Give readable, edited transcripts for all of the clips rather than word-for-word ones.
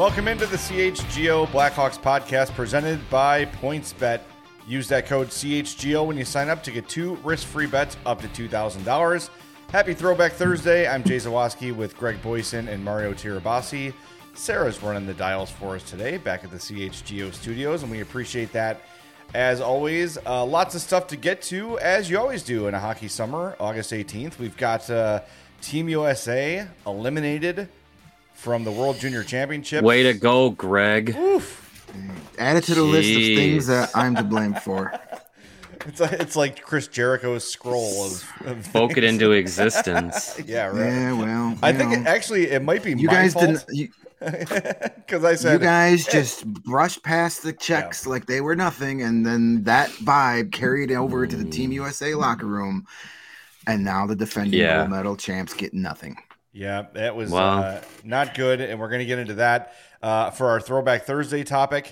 Welcome into the CHGO Blackhawks podcast presented by PointsBet. Use that code CHGO when you sign up to get 2 risk-free bets up to $2,000. Happy Throwback Thursday. I'm Jay Zawaski with Greg Boyson and Mario Tirabassi. Sarah's running the dials for us today back at the CHGO studios, and we appreciate that. As always, lots of stuff to get to, as you always do in a hockey summer. August 18th, we've got Team USA eliminated from the World Junior Championship. Way to go, Greg. Oof. Add it to the list of things that I'm to blame for. It's like Chris Jericho's scroll of Spoke it into existence. Yeah, right. Yeah, well, I think it might be you my guys fault. didn't. Because I said You guys just brushed past the checks like they were nothing, and then that vibe carried over to the Team USA locker room, and now the defending gold medal champs get nothing. Yeah, that was not good, and we're going to get into that for our Throwback Thursday topic.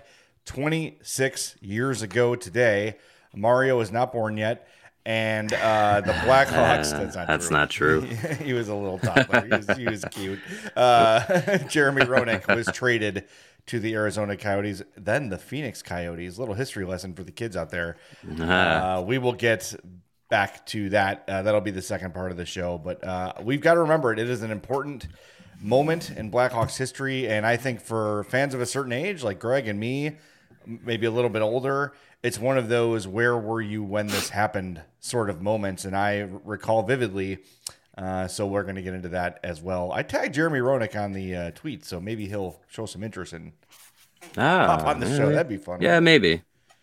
26 years ago today, Mario was not born yet, and the Blackhawks. That's not true. He was a little toddler. He was cute. Jeremy Roenick was traded to the Arizona Coyotes, then the Phoenix Coyotes. Little history lesson for the kids out there. We will get back to that. That'll be the second part of the show, but we've got to remember it is an important moment in Blackhawks history, and I think for fans of a certain age like Greg and me, maybe a little bit older, it's one of those where were you when this happened sort of moments, and I recall vividly, so we're going to get into that as well. I tagged Jeremy Roenick on the tweet, so maybe he'll show some interest and hop on the show. That'd be fun. Yeah, maybe.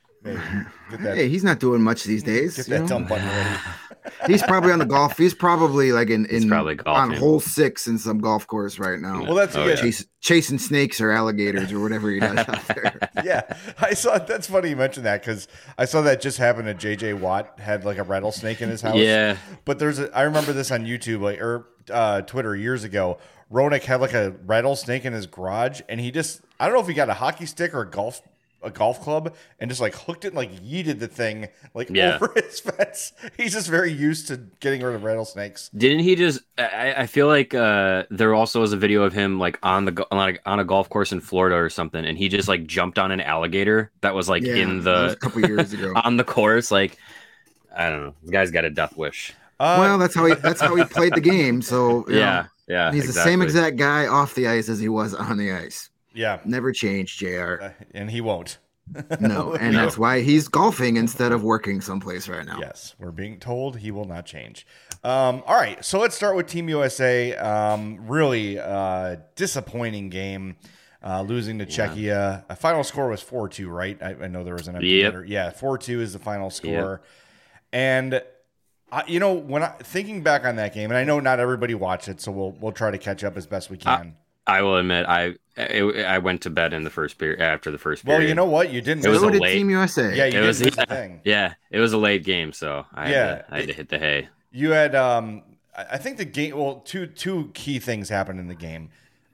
Hey, he's not doing much these days. Get that dumb button ready. He's probably on the golf. He's probably like probably on hole 6 in some golf course right now. Well, that's chasing snakes or alligators or whatever he does out there. Yeah, I saw. That's funny you mentioned that because I saw that just happen to JJ Watt had like a rattlesnake in his house. Yeah, but I remember this on YouTube or Twitter years ago. Roenick had like a rattlesnake in his garage, and I don't know if he got a hockey stick or a golf club and just like hooked it and like yeeted the thing over his fence. He's just very used to getting rid of rattlesnakes. Didn't he just? I feel like there also was a video of him like on a golf course in Florida or something, and he just like jumped on an alligator that was like that was a couple years ago on the course. Like I don't know, the guy's got a death wish. Well, that's how he played the game. So yeah, he's the same exact guy off the ice as he was on the ice. Yeah. Never changed, JR. And he won't. No, and that's why he's golfing instead of working someplace right now. Yes, we're being told he will not change. All right, so let's start with Team USA. Really disappointing game, losing to Czechia. A final score was 4-2, right? I know there was an empty letter. Yeah, 4-2 is the final score. Yep. And when thinking back on that game, and I know not everybody watched it, so we'll try to catch up as best we can. I will admit, I went to bed in the first period after the first period. Well, you know what? You didn't. It was Team USA. Yeah, it was the thing. Yeah, it was a late game, so I had to hit the hay. You had, I think the game. Well, two key things happened in the game.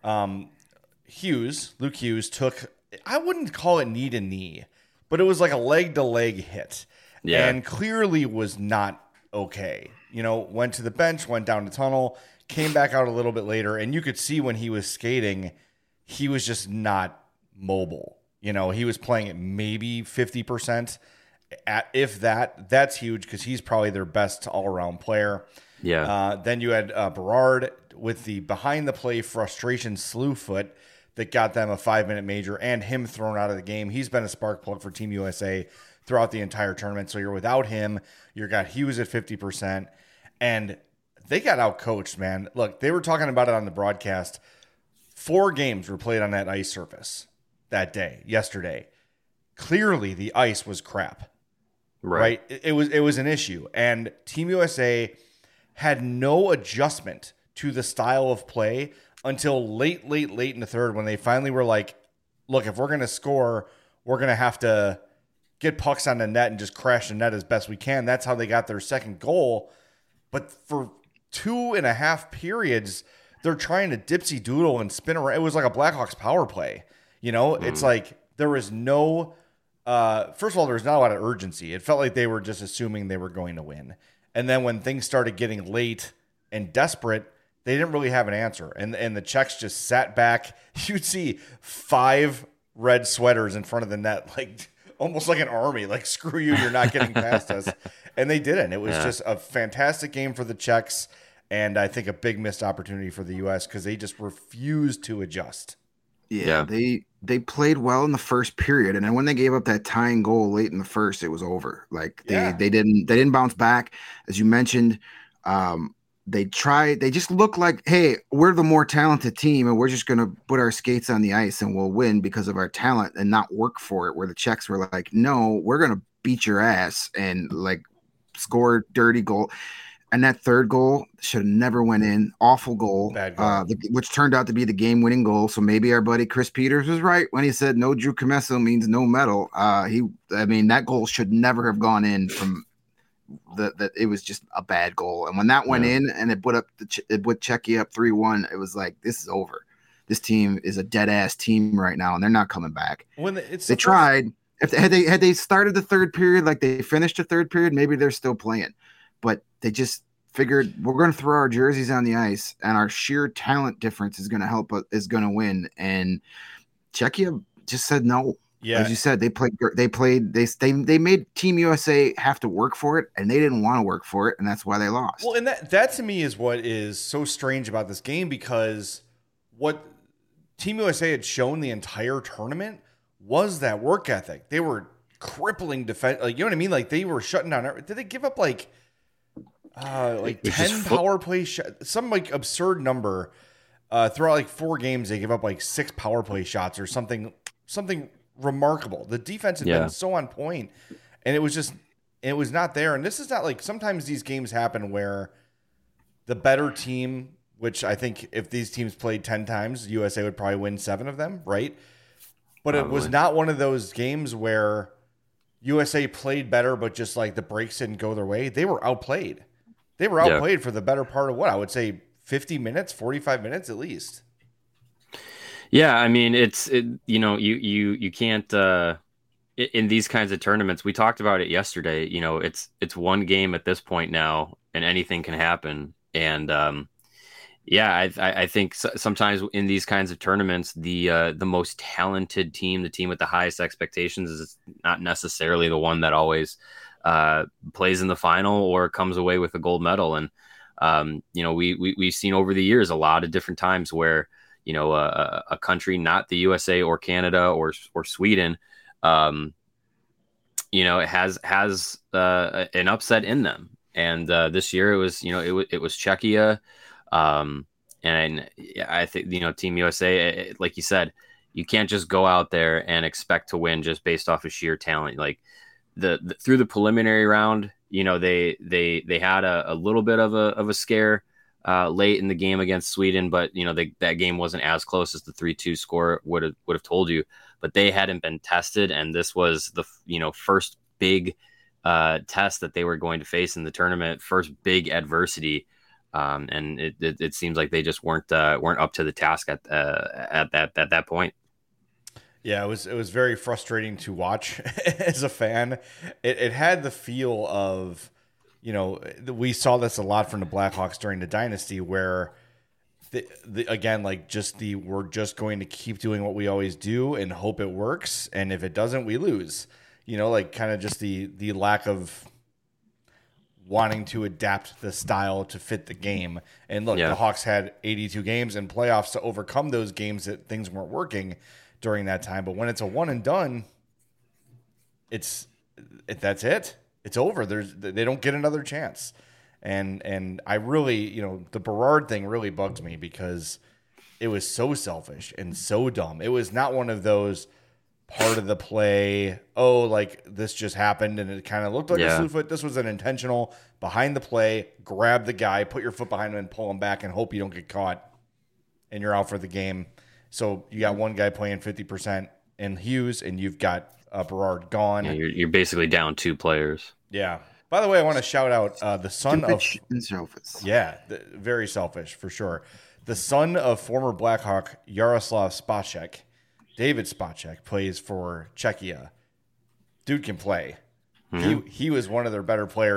Luke Hughes took. I wouldn't call it knee to knee, but it was like a leg to leg hit, and clearly was not okay. Went to the bench, went down the tunnel. Came back out a little bit later, and you could see when he was skating, he was just not mobile. He was playing at maybe 50%. If that's huge because he's probably their best all-around player. Yeah. Then you had Berard with the behind-the-play frustration slew foot that got them a 5-minute major and him thrown out of the game. He's been a spark plug for Team USA throughout the entire tournament. So you're without him. You got Hughes at 50%. And they got out-coached, man. Look, they were talking about it on the broadcast. 4 games were played on that ice surface that day, yesterday. Clearly, the ice was crap. Right? It was an issue. And Team USA had no adjustment to the style of play until late in the third when they finally were like, look, if we're going to score, we're going to have to get pucks on the net and just crash the net as best we can. That's how they got their second goal. But for 2.5 periods, they're trying to dipsy doodle and spin around. It was like a Blackhawks power play. It's like there was no, first of all, there was not a lot of urgency. It felt like they were just assuming they were going to win. And then when things started getting late and desperate, they didn't really have an answer. And the Czechs just sat back. You'd see 5 red sweaters in front of the net, like almost like an army, like, screw you, you're not getting past us. And they didn't. It was just a fantastic game for the Czechs, and I think a big missed opportunity for the U.S. because they just refused to adjust. Yeah, they played well in the first period, and then when they gave up that tying goal late in the first, it was over. Like they didn't bounce back, as you mentioned. They just look like, hey, we're the more talented team, and we're just gonna put our skates on the ice and we'll win because of our talent and not work for it. Where the Czechs were like, no, we're gonna beat your ass and like score dirty goal. And that third goal should have never went in. Awful goal, Bad goal. Which turned out to be the game-winning goal. So maybe our buddy Chris Peters was right when he said no Drew Commesso means no medal. That goal should never have gone in from that. It was just a bad goal. And when that went in and it put Czechia up 3-1, it was like, this is over. This team is a dead-ass team right now, and they're not coming back. They tried. If had they started the third period like they finished the third period, maybe they're still playing. But they just figured we're going to throw our jerseys on the ice, and our sheer talent difference is going to help us, is going to win. And Czechia just said no. Yeah, as you said, they made Team USA have to work for it, and they didn't want to work for it, and that's why they lost. Well, and that to me is what is so strange about this game, because what Team USA had shown the entire tournament was that work ethic. They were crippling defense, like, you know what I mean? Like, they were shutting down. Did they give up like 10 power play shots, some like absurd number throughout like 4 games? They give up like 6 power play shots or something remarkable. The defense had been so on point, and it was not there. And this is not like, sometimes these games happen where the better team, which I think if these teams played 10 times, USA would probably win 7 of them, right? But It was not one of those games where USA played better, but just like the breaks didn't go their way. They were outplayed. They were outplayed for the better part of what I would say 50 minutes, 45 minutes at least. Yeah, I mean, you can't in these kinds of tournaments. We talked about it yesterday. You know, it's one game at this point now, and anything can happen. And I think sometimes in these kinds of tournaments, the most talented team, the team with the highest expectations, is not necessarily the one that always plays in the final or comes away with a gold medal. And we've seen over the years a lot of different times where, you know, a country, not the USA or Canada or Sweden, it has an upset in them. And this year it was Czechia. And I think, Team USA, like you said, you can't just go out there and expect to win just based off of sheer talent. Like through the preliminary round, they had a little bit of a scare late in the game against Sweden, but that game wasn't as close as the 3-2 score would have told you. But they hadn't been tested, and this was the first big test that they were going to face in the tournament, first big adversity, and it seems like they just weren't up to the task at that point. Yeah, it was very frustrating to watch as a fan. It had the feel of, we saw this a lot from the Blackhawks during the dynasty, where we're just going to keep doing what we always do and hope it works, and if it doesn't, we lose. Kind of just the lack of wanting to adapt the style to fit the game. And look, the Hawks had 82 games in playoffs to overcome those games that things weren't working during that time. But when it's a one and done, that's it. It's over. They don't get another chance. And I really, the Berard thing really bugs me, because it was so selfish and so dumb. It was not one of those part of the play, like this just happened and it kind of looked like a slew foot. This was an intentional behind the play, grab the guy, put your foot behind him and pull him back and hope you don't get caught and you're out for the game. So you got one guy playing 50% in Hughes, and you've got Berard gone. Yeah, you're basically down 2 players. Yeah. By the way, I want to shout out the son of... selfish. Yeah, very selfish, for sure. The son of former Blackhawk Jaroslav Spacek, David Spacek, plays for Czechia. Dude can play. Mm-hmm. He was one of their better players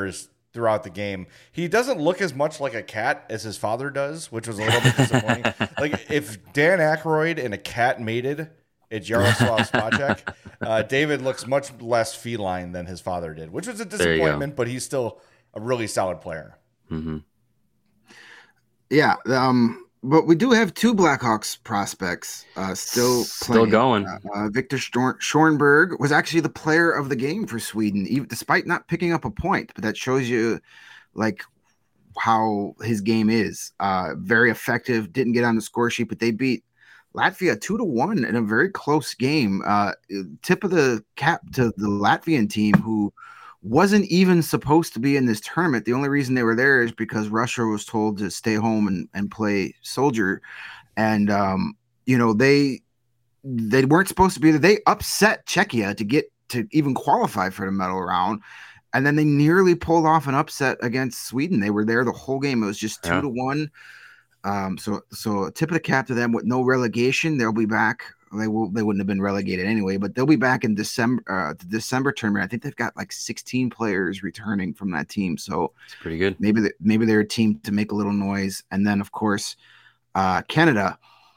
throughout the game. He doesn't look as much like a cat as his father does, which was a little bit disappointing. Like if Dan Aykroyd and a cat mated, it's Yaroslav Spacek. David looks much less feline than his father did, which was a disappointment, but he's still a really solid player. Mm-hmm. Yeah. But we do have two Blackhawks prospects still going. Victor Schornberg was actually the player of the game for Sweden, even despite not picking up a point. But that shows you like how his game is. Very effective. Didn't get on the score sheet, but they beat Latvia 2-1 in a very close game. Tip of the cap to the Latvian team, who wasn't even supposed to be in this tournament. The only reason they were there is because Russia was told to stay home and play soldier. And, they weren't supposed to be there. They upset Czechia to get to even qualify for the medal round. And then they nearly pulled off an upset against Sweden. They were there the whole game. It was just 2-1. So a tip of the cap to them with no relegation. They'll be back. They wouldn't have been relegated anyway, but they'll be back in December. The December tournament. I think they've got like 16 players returning from that team. So it's pretty good. Maybe they're a team to make a little noise. And then of course, Canada.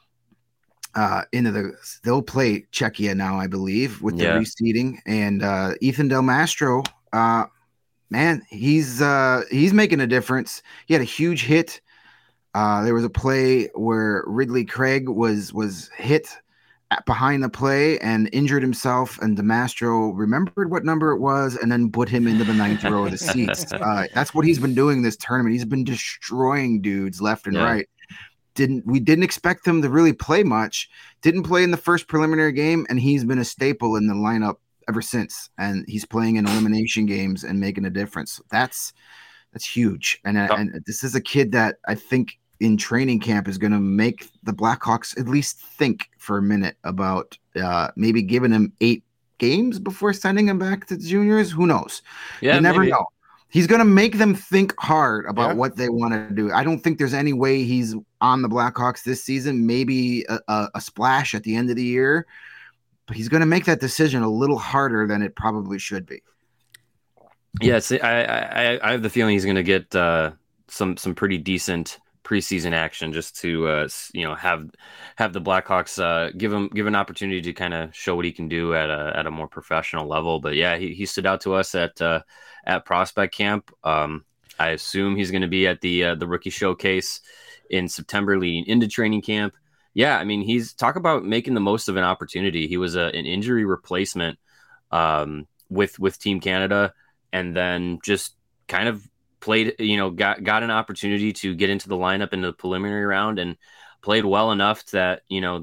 They'll play Czechia now, I believe, with the reseeding. And Ethan Del Mastro, man, he's making a difference. He had a huge hit. There was a play where Ridley Craig was hit behind the play and injured himself, and DeMastro remembered what number it was and then put him into the ninth row of the seats. That's what he's been doing this tournament. He's been destroying dudes left and right. We didn't expect him to really play much. Didn't play in the first preliminary game, and he's been a staple in the lineup ever since. And he's playing in elimination games and making a difference. That's huge. And this is a kid that I think in training camp is going to make the Blackhawks at least think for a minute about maybe giving him 8 games before sending him back to the juniors. Who knows? You never know. He's going to make them think hard about what they want to do. I don't think there's any way he's on the Blackhawks this season. Maybe a splash at the end of the year, but he's going to make that decision a little harder than it probably should be. Yes, I have the feeling he's going to get some pretty decent preseason action just to have the Blackhawks give him an opportunity to kind of show what he can do at a more professional level. But yeah, he stood out to us at prospect camp. I assume he's going to be at the rookie showcase in September leading into training camp. Yeah, I mean, he's talk about making the most of an opportunity. He was an injury replacement with Team Canada, and then just kind of played, got an opportunity to get into the lineup in the preliminary round and played well enough that,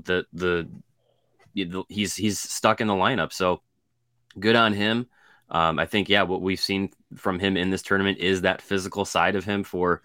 he's stuck in the lineup. So good on him. I think, what we've seen from him in this tournament is that physical side of him for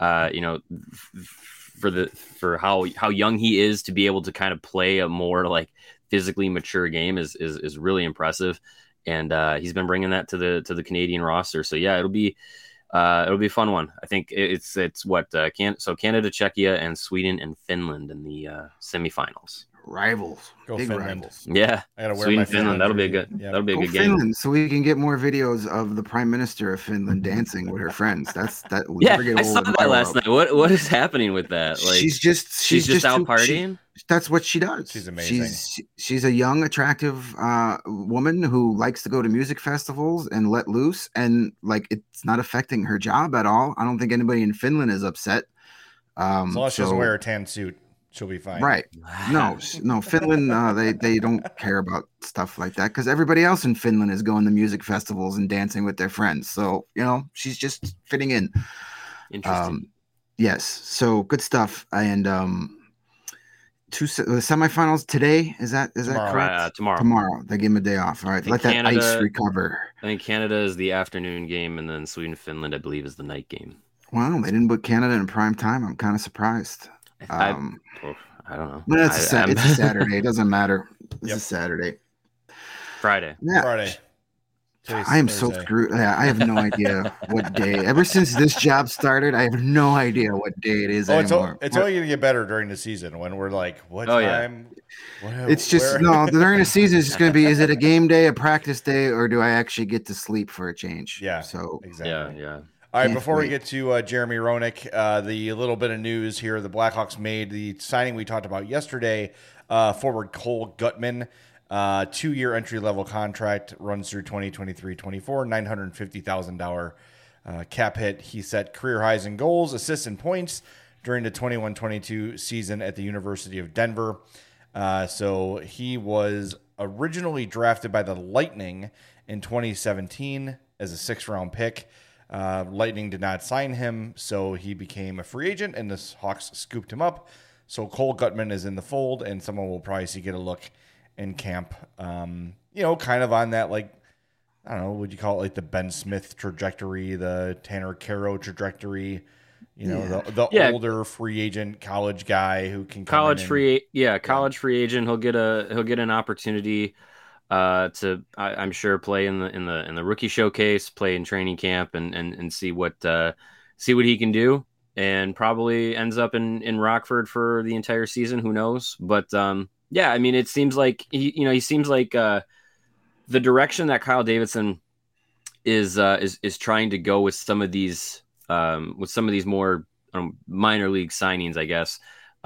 how young he is to be able to kind of play a more like physically mature game is really impressive. And he's been bringing that to the Canadian roster. So yeah, it'll be a fun one. I think it's Canada, Czechia, and Sweden and Finland in the semifinals. Rivals, big rivals. Yeah, Sweden, Finland. That'll be a good. Yeah. That'll be a good Finland, game. so we can get more videos of the Prime Minister of Finland dancing with her friends. That yeah, I saw that last night. What is happening with that? Like she's just out partying. That's what she does. She's amazing. She's a young, attractive woman who likes to go to music festivals and let loose, and like it's not affecting her job at all. I don't think anybody in Finland is upset. As long as she doesn't wear a tan suit, she'll be fine. Right. No, Finland, they don't care about stuff like that because everybody else in Finland is going to music festivals and dancing with their friends. So, she's just fitting in. Interesting. Yes. So good stuff. And the semifinals today, is that correct? Tomorrow. They give him a day off. All right. Let that ice recover. I think Canada is the afternoon game, and then Sweden, Finland, I believe, is the night game. Wow. They didn't put Canada in prime time. I'm kind of surprised. I don't know. But it's a Saturday. It doesn't matter. It's a Saturday. Friday. Yeah. Friday. I am so screwed. Yeah, I have no idea what day. Ever since this job started, I have no idea what day it is anymore. It's only going to get better during the season when we're like, what time? It's just during the season. It's just going to be: is it a game day, a practice day, or do I actually get to sleep for a change? Yeah. So exactly. Yeah. All right, Can't before we wait. get to Jeremy Roenick, the little bit of news here, the Blackhawks made the signing we talked about yesterday, forward Cole Gutman, 2-year entry-level contract, runs through 2023-24, $950,000 cap hit. He set career highs in goals, assists, and points during the 21-22 season at the University of Denver. So he was originally drafted by the Lightning in 2017 as a 6th-round pick. Lightning did not sign him, so he became a free agent, and the Hawks scooped him up. So Cole Gutman is in the fold, and someone will probably see get a look in camp. Kind of on that, like, I don't know, would you call it like the Ben Smith trajectory, the Tanner Caro trajectory? The older free agent college guy who can come free agent. He'll get an opportunity I'm sure play in the rookie showcase, play in training camp, and see what he can do, and probably ends up in Rockford for the entire season. Who knows? But it seems like he seems like the direction that Kyle Davidson is trying to go with some of these more minor league signings, I guess.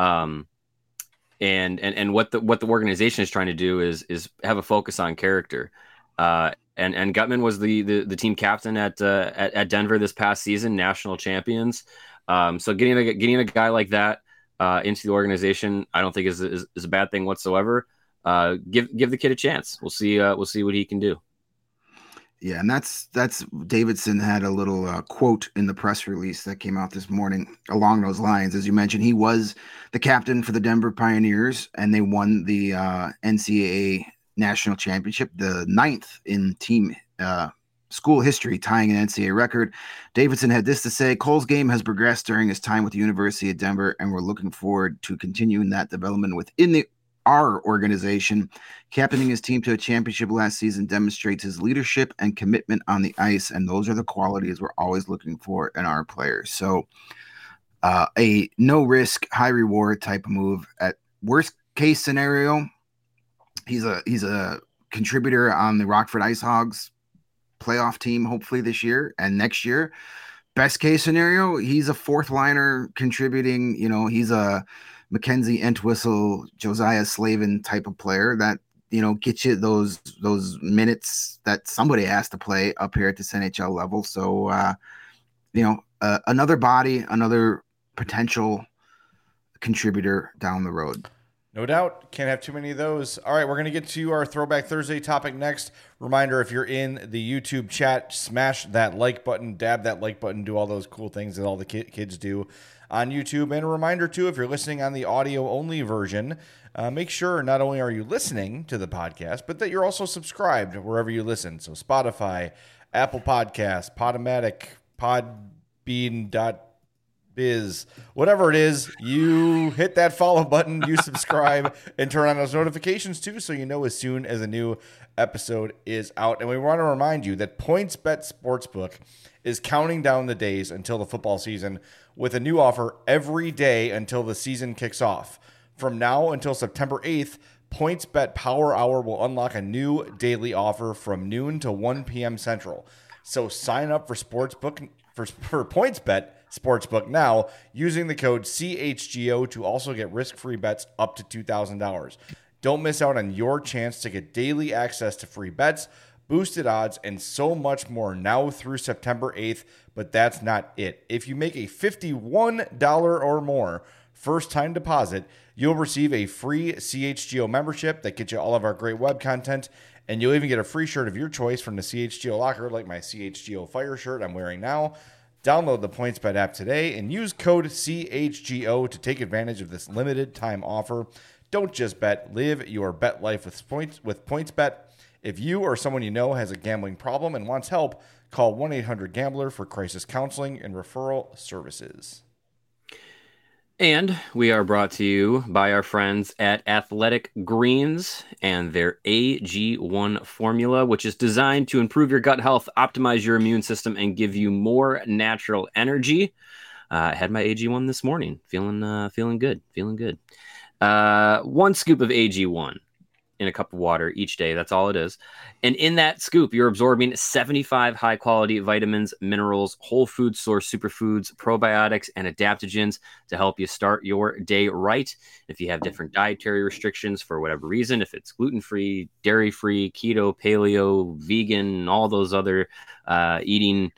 And what the organization is trying to do is have a focus on character. And Gutman was the team captain at Denver this past season, national champions. So getting a guy like that into the organization, I don't think is a bad thing whatsoever. Give the kid a chance. We'll see what he can do. Yeah, and that's Davidson had a little quote in the press release that came out this morning along those lines. As you mentioned, he was the captain for the Denver Pioneers, and they won the NCAA national championship, the 9th in team school history, tying an NCAA record. Davidson had this to say: Cole's game has progressed during his time with the University of Denver, and we're looking forward to continuing that development within our organization. Captaining his team to a championship last season demonstrates his leadership and commitment on the ice, and those are the qualities we're always looking for in our players. So a no risk, high reward type of move. At worst case scenario, he's a contributor on the Rockford Ice Hogs playoff team, hopefully this year and next year. Best case scenario, he's a 4th liner contributing. He's a Mackenzie Entwistle, Josiah Slavin type of player that, get you those minutes that somebody has to play up here at this NHL level. So, another body, another potential contributor down the road. No doubt. Can't have too many of those. All right, we're going to get to our Throwback Thursday topic next. Reminder, if you're in the YouTube chat, smash that like button, dab that like button, do all those cool things that all the kids do on YouTube. And a reminder, too, if you're listening on the audio-only version, make sure not only are you listening to the podcast, but that you're also subscribed wherever you listen. So Spotify, Apple Podcasts, Podomatic, Podbean.biz, whatever it is, you hit that follow button, you subscribe, and turn on those notifications, too, so you know as soon as a new episode is out. And we want to remind you that PointsBet Sportsbook is counting down the days until the football season with a new offer every day until the season kicks off. From now until September 8th, PointsBet Power Hour will unlock a new daily offer from noon to 1 p.m. Central. So sign up for Sportsbook for PointsBet Sportsbook now using the code CHGO to also get risk-free bets up to $2,000. Don't miss out on your chance to get daily access to free bets, boosted odds, and so much more now through September 8th. But that's not it. If you make a $51 or more first-time deposit, you'll receive a free CHGO membership that gets you all of our great web content, and you'll even get a free shirt of your choice from the CHGO locker, like my CHGO Fire shirt I'm wearing now. Download the PointsBet app today and use code CHGO to take advantage of this limited time offer. Don't just bet, live your bet life with PointsBet. If you or someone you know has a gambling problem and wants help, call 1-800-GAMBLER for crisis counseling and referral services. And we are brought to you by our friends at Athletic Greens and their AG1 formula, which is designed to improve your gut health, optimize your immune system, and give you more natural energy. I had my AG1 this morning, feeling good. One scoop of AG1 in a cup of water each day. That's all it is. And in that scoop, you're absorbing 75 high quality vitamins, minerals, whole food source superfoods, probiotics, and adaptogens to help you start your day right. If you have different dietary restrictions for whatever reason, if it's gluten-free, dairy-free, keto, paleo, vegan, all those other eating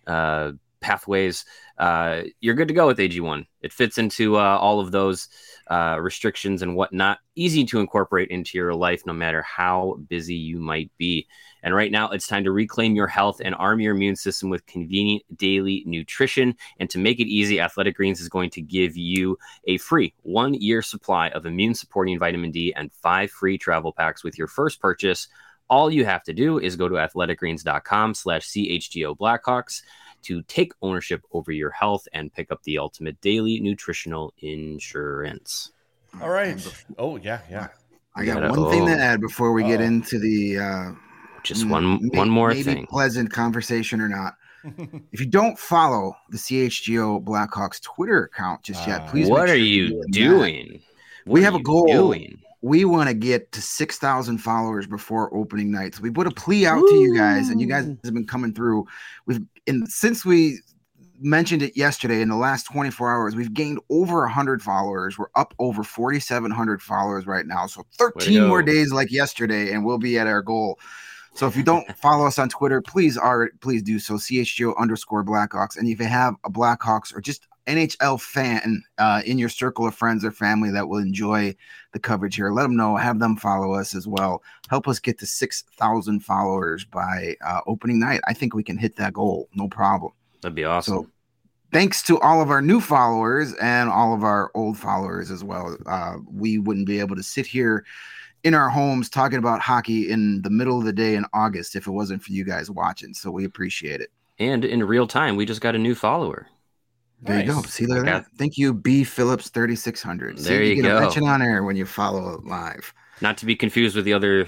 pathways, you're good to go with AG1. It fits into all of those restrictions and whatnot. Easy to incorporate into your life, no matter how busy you might be. And right now, it's time to reclaim your health and arm your immune system with convenient daily nutrition. And to make it easy, Athletic Greens is going to give you a free 1-year supply of immune-supporting vitamin D and 5 free travel packs with your first purchase. All you have to do is go to athleticgreens.com/CHGO Blackhawks to take ownership over your health and pick up the ultimate daily nutritional insurance. All right. Oh, yeah. I got one thing to add before we get into the just one more maybe thing. Pleasant conversation or not. If you don't follow the CHGO Blackhawks Twitter account just yet, please. What are you doing? We have a goal. We want to get to 6,000 followers before opening night. So we put a plea out to you guys, and you guys have been coming through. Since we mentioned it yesterday, in the last 24 hours, we've gained over 100 followers. We're up over 4,700 followers right now. So 13 more days like yesterday, and we'll be at our goal. So if you don't follow us on Twitter, please do so. CHGO_Blackhawks. And if you have a Blackhawks or just NHL fan in your circle of friends or family that will enjoy the coverage here, let them know. Have them follow us as well. Help us get to 6,000 followers by opening night. I think we can hit that goal. No problem. That'd be awesome. So thanks to all of our new followers and all of our old followers as well. We wouldn't be able to sit here in our homes talking about hockey in the middle of the day in August if it wasn't for you guys watching. So we appreciate it. And in real time, we just got a new follower. There you go. See that? Thank you, B Phillips 3600. There you get go. A mention on air when you follow it live. Not to be confused with the other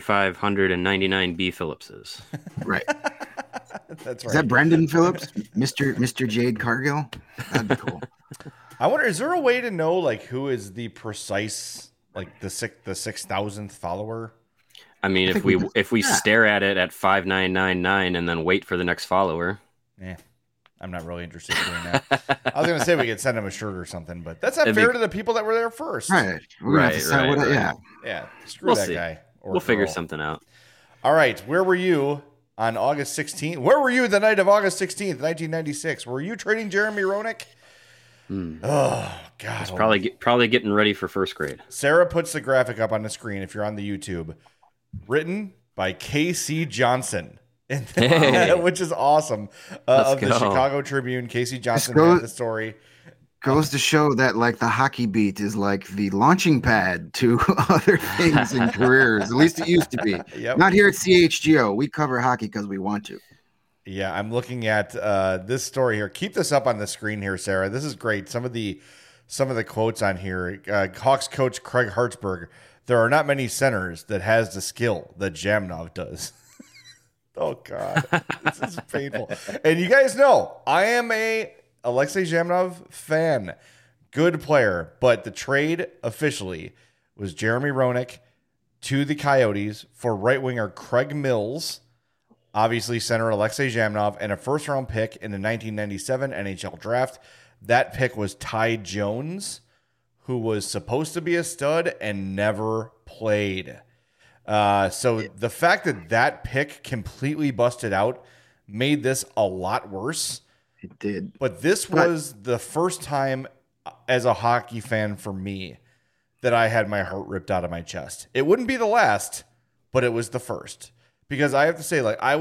3,599 B Phillipses. Right. That's right. Is that Brendan Phillips, Mr. Jade Cargill? That'd be cool. I wonder, is there a way to know like who is the precise like the 6,000th follower? I mean, if we stare at it at 5,999 and then wait for the next follower. Yeah. I'm not really interested in doing that. I was going to say we could send him a shirt or something, but that's not fair to the people that were there first. Right. Yeah. Yeah. Screw that guy. We'll figure something out. All right. Where were you on August 16th? Where were you the night of August 16th, 1996? Were you trading Jeremy Roenick? Oh, God. He's probably getting ready for first grade. Sarah puts the graphic up on the screen if you're on the YouTube. Written by K.C. Johnson. Which is awesome. Of the Chicago Tribune. Casey Johnson had the story. Goes to show that like the hockey beat is like the launching pad to other things in careers. At least it used to be. Yep. Not here at CHGO. We cover hockey because we want to. Yeah, I'm looking at this story here. Keep this up on the screen here, Sarah. This is great. Some of the quotes on here. Hawks coach Craig Hartsburg. There are not many centers that has the skill that Zhamnov does. Oh, God. This is painful. And you guys know, I am a Alexei Zhamnov fan. Good player. But the trade officially was Jeremy Roenick to the Coyotes for right winger Craig Mills, obviously center Alexei Zhamnov, and a first-round pick in the 1997 NHL draft. That pick was Ty Jones, who was supposed to be a stud and never played. So the fact that pick completely busted out made this a lot worse. It did. But this was the first time as a hockey fan for me that I had my heart ripped out of my chest. It wouldn't be the last, but it was the first. Because I have to say, like, I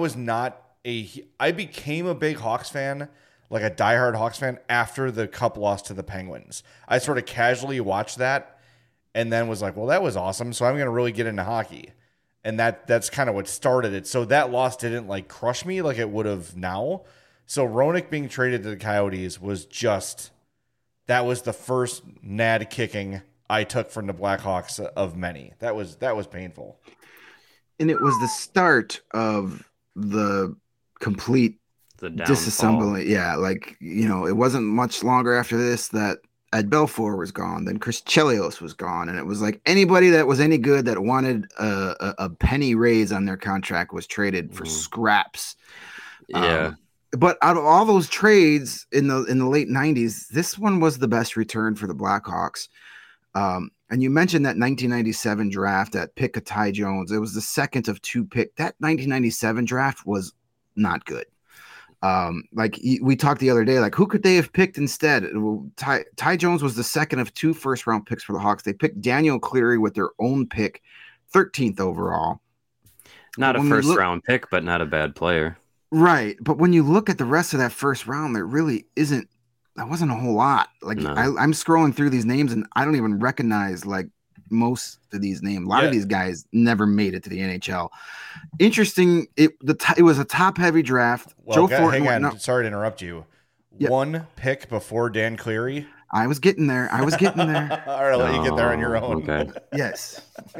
became a big Hawks fan, like a diehard Hawks fan, after the Cup loss to the Penguins. I sort of casually watched that and then was like, well, that was awesome, so I'm going to really get into hockey. And that's kind of what started it. So that loss didn't, like, crush me like it would have now. So Roenick being traded to the Coyotes was that was the first nad kicking I took from the Blackhawks of many. That was painful. And it was the start of the complete disassembly. Yeah, like, it wasn't much longer after this that Ed Belfour was gone. Then Chris Chelios was gone. And it was like anybody that was any good that wanted a penny raise on their contract was traded for scraps. Yeah. But out of all those trades in the late 90s, this one was the best return for the Blackhawks. And you mentioned that 1997 draft that pick of Ty Jones. It was the second of 2 pick. That 1997 draft was not good. Like we talked the other day, like who could they have picked instead? Ty Jones was the second of 2 first-round picks for the Hawks. They picked Daniel Cleary with their own pick, 13th overall. Not a first-round pick, but not a bad player. Right. But when you look at the rest of that first round, there really isn't. That wasn't a whole lot. Like No. I'm scrolling through these names and I don't even recognize like most of these names. A lot of these guys never made it to the NHL. Interesting. It was a top heavy draft. Well, Joe Thornton. Hang on. Sorry to interrupt you. Yep. 1 pick before Dan Cleary. I was getting there. All right, I'll let you get there on your own. Okay. Yes.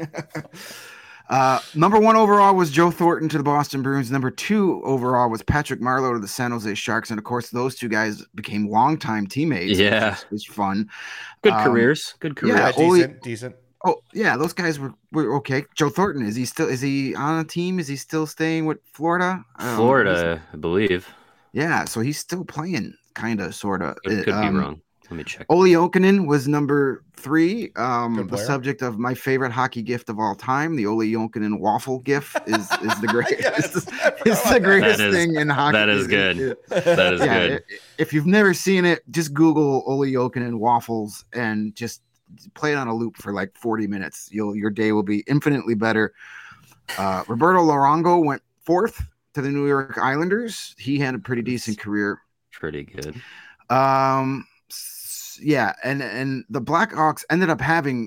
Number 1 overall was Joe Thornton to the Boston Bruins. Number 2 overall was Patrick Marleau to the San Jose Sharks. And of course, those 2 guys became longtime teammates. Yeah. Which was fun. Good careers. Yeah, decent. Oh, yeah, those guys were okay. Joe Thornton, is he on a team? Is he still staying with Florida? Florida, I believe. Yeah, so he's still playing, kind of, sort of. Could be wrong. Let me check. Olli Jokinen was number 3. The subject of my favorite hockey gift of all time, the Olli Jokinen waffle gif, is the greatest. It's the greatest thing in hockey. That is good. That is good. If you've never seen it, just Google Olli Jokinen waffles and just play it on a loop for like 40 minutes. Your day will be infinitely better. Roberto Luongo went 4th to the New York Islanders. He had a pretty decent career. Pretty good. Yeah, and the Blackhawks ended up having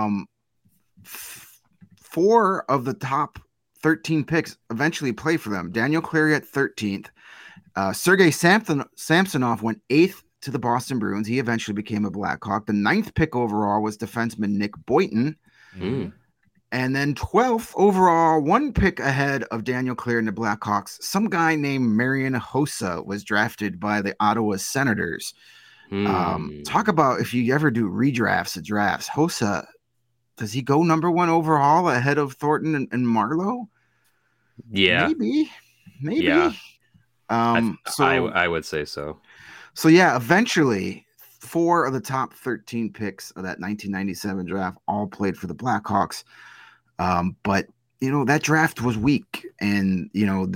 4 of the top 13 picks eventually play for them. Daniel Cleary at 13th. Sergei Samsonov went 8th to the Boston Bruins. He eventually became a Blackhawk. The 9th pick overall was defenseman Nick Boynton. Mm. And then 12th overall, 1 pick ahead of Daniel Cleary and the Blackhawks, some guy named Marian Hossa was drafted by the Ottawa Senators. Talk about if you ever do redrafts of drafts. Hossa, does he go number 1 overall ahead of Thornton and Marleau? Yeah. Maybe. Yeah. So I would say so. So yeah, eventually 4 of the top 13 picks of that 1997 draft all played for the Blackhawks. But you know, that draft was weak, and you know,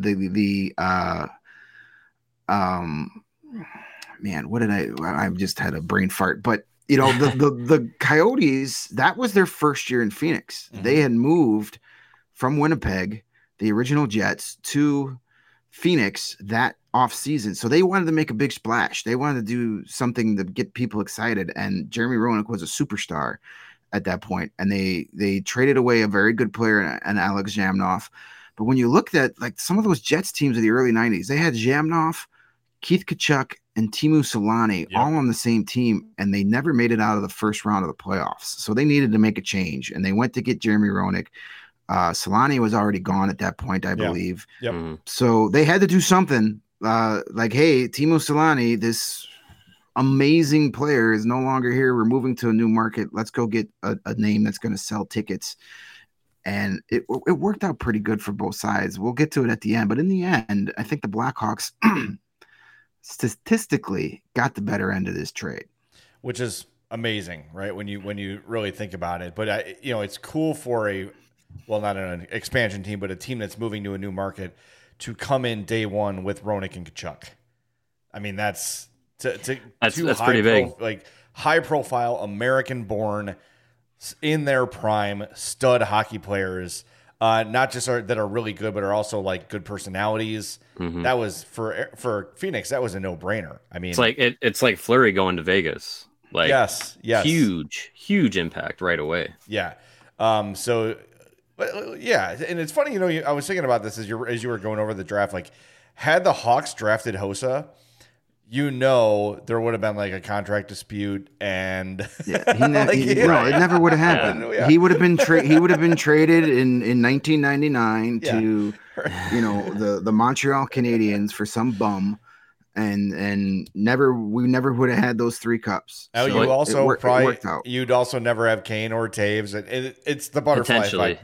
man, what did I just had a brain fart, but you know, the Coyotes, that was their first year in Phoenix. Mm-hmm. They had moved from Winnipeg, the original Jets, to Phoenix that off season. So they wanted to make a big splash. They wanted to do something to get people excited. And Jeremy Roenick was a superstar at that point. And they traded away a very good player and Alex Zhamnov. But when you looked at like some of those Jets teams of the early 90s, they had Zhamnov, Keith Tkachuk, and Teemu Selanne all on the same team, and they never made it out of the first round of the playoffs. So they needed to make a change, and they went to get Jeremy Roenick. Selanne was already gone at that point, I believe. Yep. Mm-hmm. So they had to do something. Like, hey, Teemu Selanne, this amazing player, is no longer here. We're moving to a new market. Let's go get a name that's going to sell tickets. And it worked out pretty good for both sides. We'll get to it at the end. But in the end, I think the Blackhawks statistically got the better end of this trade. Which is amazing, right? When you really think about it. But, it's cool for not an expansion team, but a team that's moving to a new market to come in day one with Roenick and Tkachuk. I mean, that's pretty big. Like high profile, American born, in their prime, stud hockey players, not just that are really good, but are also like good personalities. Mm-hmm. That was for Phoenix. That was a no brainer. I mean, it's like Fleury going to Vegas. Like yes, huge impact right away. Yeah. Yeah, and it's funny, I was thinking about this as you were going over the draft. Like, had the Hawks drafted Hossa, there would have been like a contract dispute, and it never would have happened. Yeah. He would have been traded in 1999 to the Montreal Canadiens for some bum, and we never would have had those 3 cups. Oh, So you also it probably worked out. you'd also never have Kane or Taves. It's the butterfly effect.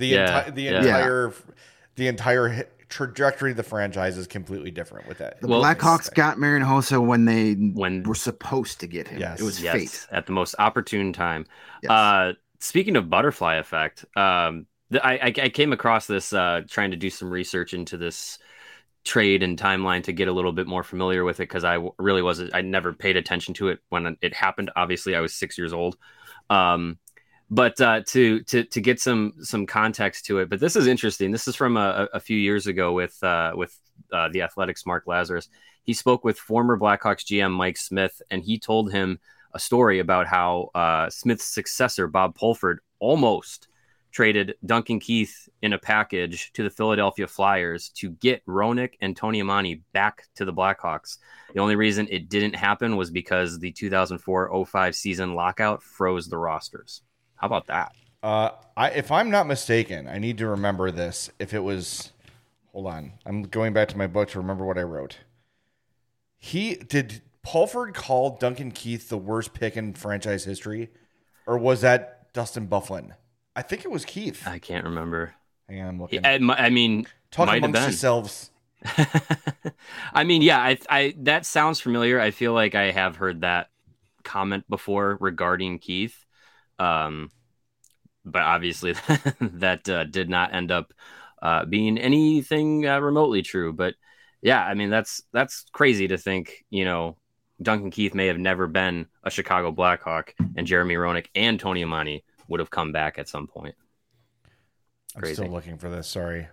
The entire trajectory of the franchise is completely different with that. The Blackhawks got Marian Hossa when they were supposed to get him. Yes. It was fate at the most opportune time. Yes. Speaking of butterfly effect, I came across this trying to do some research into this trade and timeline to get a little bit more familiar with it, because I never paid attention to it when it happened. Obviously, I was 6 years old. But to get some context to it, but this is interesting. This is from a few years ago with the Athletics' Mark Lazarus. He spoke with former Blackhawks GM Mike Smith, and he told him a story about how Smith's successor Bob Pulford almost traded Duncan Keith in a package to the Philadelphia Flyers to get Roenick and Tony Amonte back to the Blackhawks. The only reason it didn't happen was because the 2004-05 season lockout froze the rosters. How about that? If I'm not mistaken, I need to remember this. If it was, hold on, I'm going back to my book to remember what I wrote. Did Pulford call Duncan Keith the worst pick in franchise history, or was that Dustin Byfuglien? I think it was Keith. I can't remember. Hang on, I'm looking. I mean, talk amongst yourselves. I mean, yeah, I that sounds familiar. I feel like I have heard that comment before regarding Keith. But obviously that did not end up being anything remotely true. But yeah, I mean, that's crazy to think, Duncan Keith may have never been a Chicago Blackhawk, and Jeremy Roenick and Tony Amonte would have come back at some point. Crazy. I'm still looking for this. Sorry.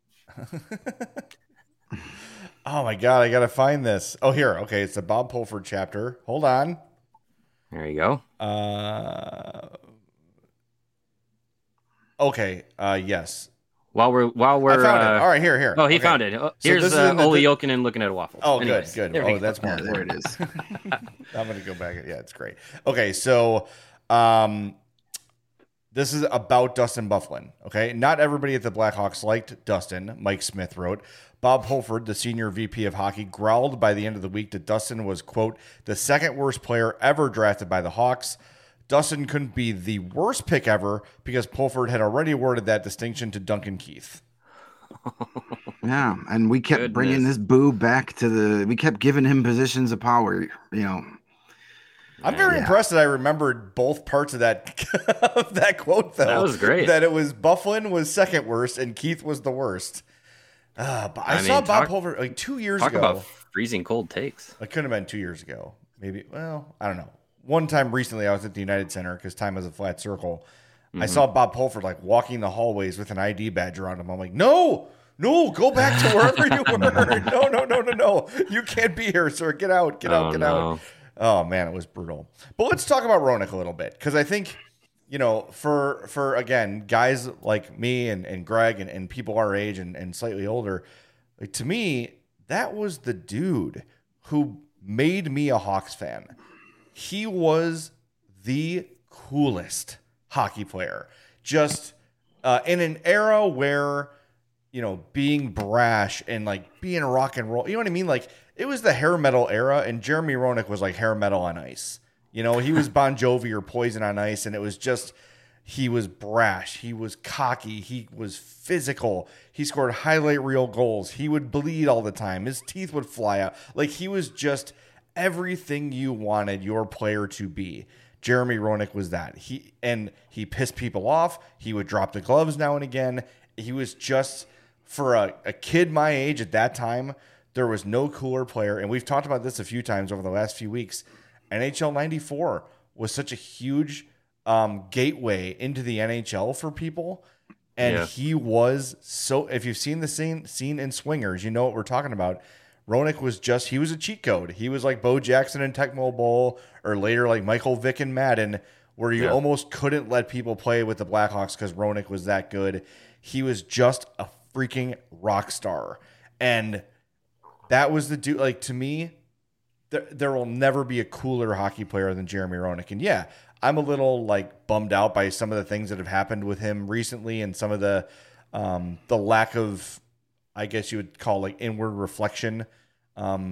Oh my God, I got to find this. Oh, here. Okay. It's the Bob Pulford chapter. Hold on. There you go. Okay. Yes. While we're I found it. All right, here. Oh, he found it. Here's Ole Jokinen looking at a waffle. Oh, anyways, good. Oh, that's more. There it is. I'm going to go back. Yeah, it's great. Okay, so this is about Dustin Byfuglien. Okay, not everybody at the Blackhawks liked Dustin. Mike Smith wrote. Bob Pulford, the senior VP of hockey, growled by the end of the week that Dustin was, quote, the second worst player ever drafted by the Hawks. Dustin couldn't be the worst pick ever because Pulford had already awarded that distinction to Duncan Keith. Yeah, and we kept bringing this boo back we kept giving him positions of power, I'm very impressed that I remembered both parts of that quote, though. That was great. That it was Byfuglien was second worst and Keith was the worst. But I saw Bob Pulford like 2 years ago. Talk about freezing cold takes. It couldn't have been 2 years ago. Maybe, well, I don't know. One time recently, I was at the United Center because time is a flat circle. Mm-hmm. I saw Bob Pulford like walking the hallways with an ID badge around him. I'm like, no, go back to wherever you were. No. You can't be here, sir. Get out. Out. Oh, man, it was brutal. But let's talk about Roenick a little bit because I think, for again, guys like me and Greg and people our age and slightly older, like, to me, that was the dude who made me a Hawks fan. He was the coolest hockey player. Just in an era where, being brash and like being rock and roll, you know what I mean? Like, it was the hair metal era, and Jeremy Roenick was like hair metal on ice. He was Bon Jovi or Poison on ice, and it was just, he was brash. He was cocky. He was physical. He scored highlight reel goals. He would bleed all the time. His teeth would fly out. Like, he was just everything you wanted your player to be. Jeremy Roenick was that. He pissed people off. He would drop the gloves now and again. He was just, for a kid my age at that time, there was no cooler player. And we've talked about this a few times over the last few weeks. NHL 94 was such a huge gateway into the NHL for people. And he was so, if you've seen the scene in Swingers, you know what we're talking about. Roenick was he was a cheat code. He was like Bo Jackson in Tecmo Bowl, or later like Michael Vick in Madden, where you almost couldn't let people play with the Blackhawks because Roenick was that good. He was just a freaking rock star. And that was the dude. Like, to me, there will never be a cooler hockey player than Jeremy Roenick. And yeah, I'm a little like bummed out by some of the things that have happened with him recently and some of the lack of, I guess you would call like inward reflection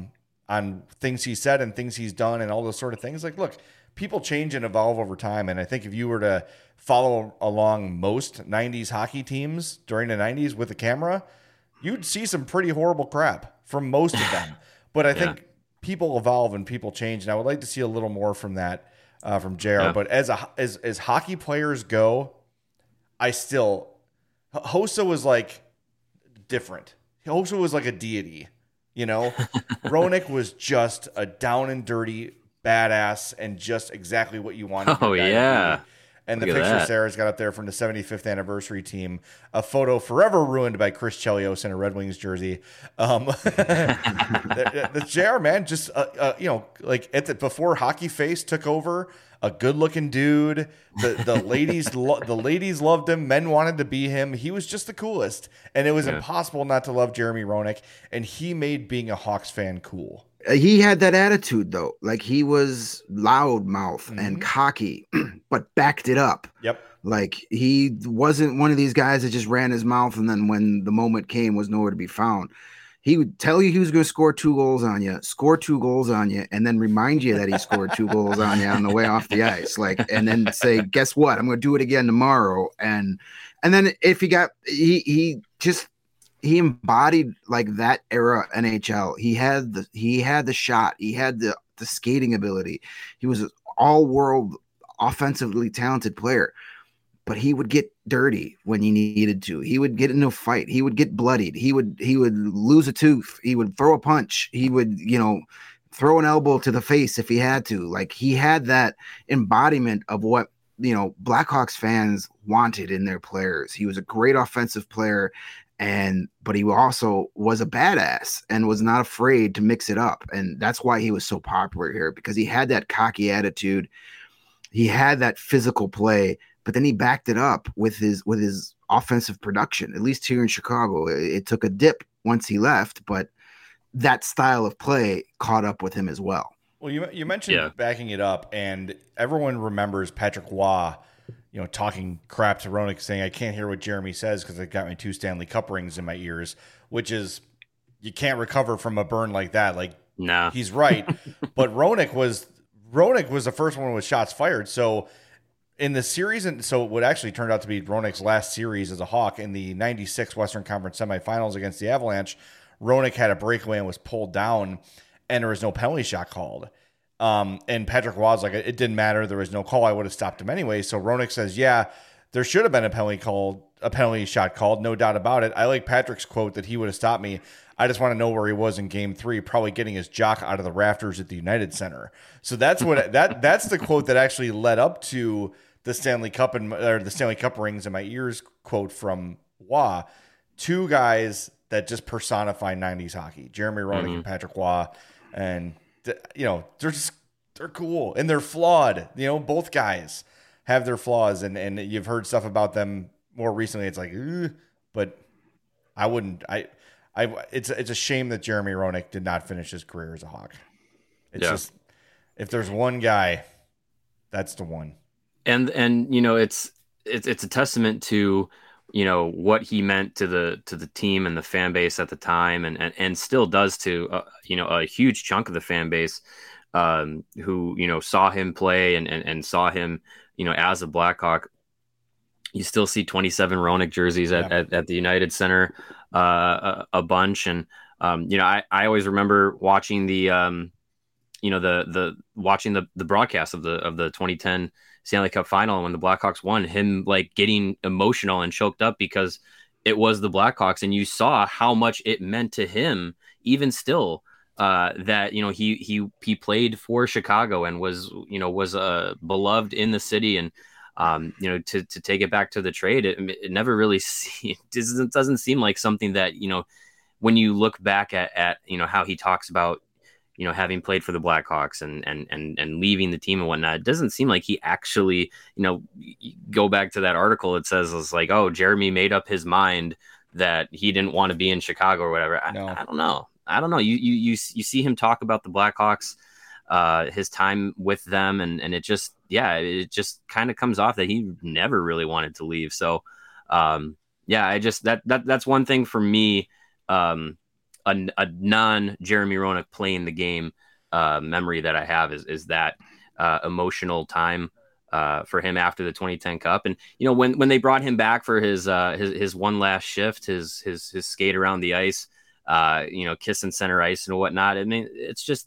things he said and things he's done and all those sort of things. Like, look, people change and evolve over time. And I think if you were to follow along most 90s hockey teams during the 90s with a camera, you'd see some pretty horrible crap from most of them. But I think people evolve and people change. And I would like to see a little more from that from JR. Yeah. But as hockey players go, Hossa was like different. Hossa was like a deity, you know. Roenick was just a down and dirty badass and just exactly what you wanted. Oh yeah. And the picture Sarah's got up there from the 75th anniversary team, a photo forever ruined by Chris Chelios in a Red Wings jersey. The JR, man, just you know, like before Hockey Face took over, a good-looking dude. The ladies the ladies loved him. Men wanted to be him. He was just the coolest, and it was impossible not to love Jeremy Roenick. And he made being a Hawks fan cool. He had that attitude, though. Like, he was loudmouth and cocky, but backed it up. Yep. Like, he wasn't one of these guys that just ran his mouth and then when the moment came was nowhere to be found. He would tell you he was going to score 2 goals on you, score 2 goals on you, and then remind you that he scored 2 goals on you on the way off the ice. Like, and then say, guess what? I'm going to do it again tomorrow. And then if he embodied like that era NHL. He had the shot. He had the skating ability. He was an all-world offensively talented player, but he would get dirty when he needed to. He would get into a fight. He would get bloodied. He would lose a tooth. He would throw a punch. He would, throw an elbow to the face if he had to. Like, he had that embodiment of what, Blackhawks fans wanted in their players. He was a great offensive player. But he also was a badass and was not afraid to mix it up. And that's why he was so popular here, because he had that cocky attitude. He had that physical play, but then he backed it up with his offensive production. At least here in Chicago, it took a dip once he left, but that style of play caught up with him as well. Well, you mentioned backing it up, and everyone remembers Patrick Roy, talking crap to Roenick, saying, I can't hear what Jeremy says because I got my 2 Stanley Cup rings in my ears, which is, you can't recover from a burn like that. Like, no, he's right. But Roenick was the first one with shots fired. So in the series, and so what actually turned out to be Roenick's last series as a Hawk in the 96 Western Conference semifinals against the Avalanche, Roenick had a breakaway and was pulled down, and there was no penalty shot called. And Patrick Roy was like, it didn't matter. There was no call. I would have stopped him anyway. So Roenick says, yeah, there should have been a penalty shot called. No doubt about it. I like Patrick's quote that he would have stopped me. I just want to know where he was in game 3, probably getting his jock out of the rafters at the United Center. So that's what that's the quote that actually led up to the Stanley Cup the Stanley Cup rings in my ears quote from Roy. 2 guys that just personify 90s hockey, Jeremy Roenick and Patrick Roy. And they're cool and they're flawed. Both guys have their flaws, and you've heard stuff about them more recently. It's like, but I wouldn't. It's a shame that Jeremy Roenick did not finish his career as a Hawk. It's just, if there's one guy, that's the one. And it's a testament to what he meant to the team and the fan base at the time, and still does to a huge chunk of the fan base who saw him play and saw him as a Blackhawk. You still see 27 Roenick jerseys at the United Center a bunch, and I always remember watching the watching the broadcast of the 2010 Stanley Cup final when the Blackhawks won, him like getting emotional and choked up because it was the Blackhawks, and you saw how much it meant to him even still that he played for Chicago and was beloved in the city, and to take it back to the trade, it never really it doesn't seem like something that when you look back at how he talks about having played for the Blackhawks and leaving the team and whatnot, it doesn't seem like he actually, go back to that article. It says it's like, oh, Jeremy made up his mind that he didn't want to be in Chicago or whatever. No. I don't know. You see him talk about the Blackhawks, his time with them, and it just kind of comes off that he never really wanted to leave. So, that's one thing for me. a non Jeremy Roenick playing the game memory that I have is that emotional time for him after the 2010 Cup. And when they brought him back for his one last shift, his skate around the ice, kissing center ice and whatnot. I mean, it's just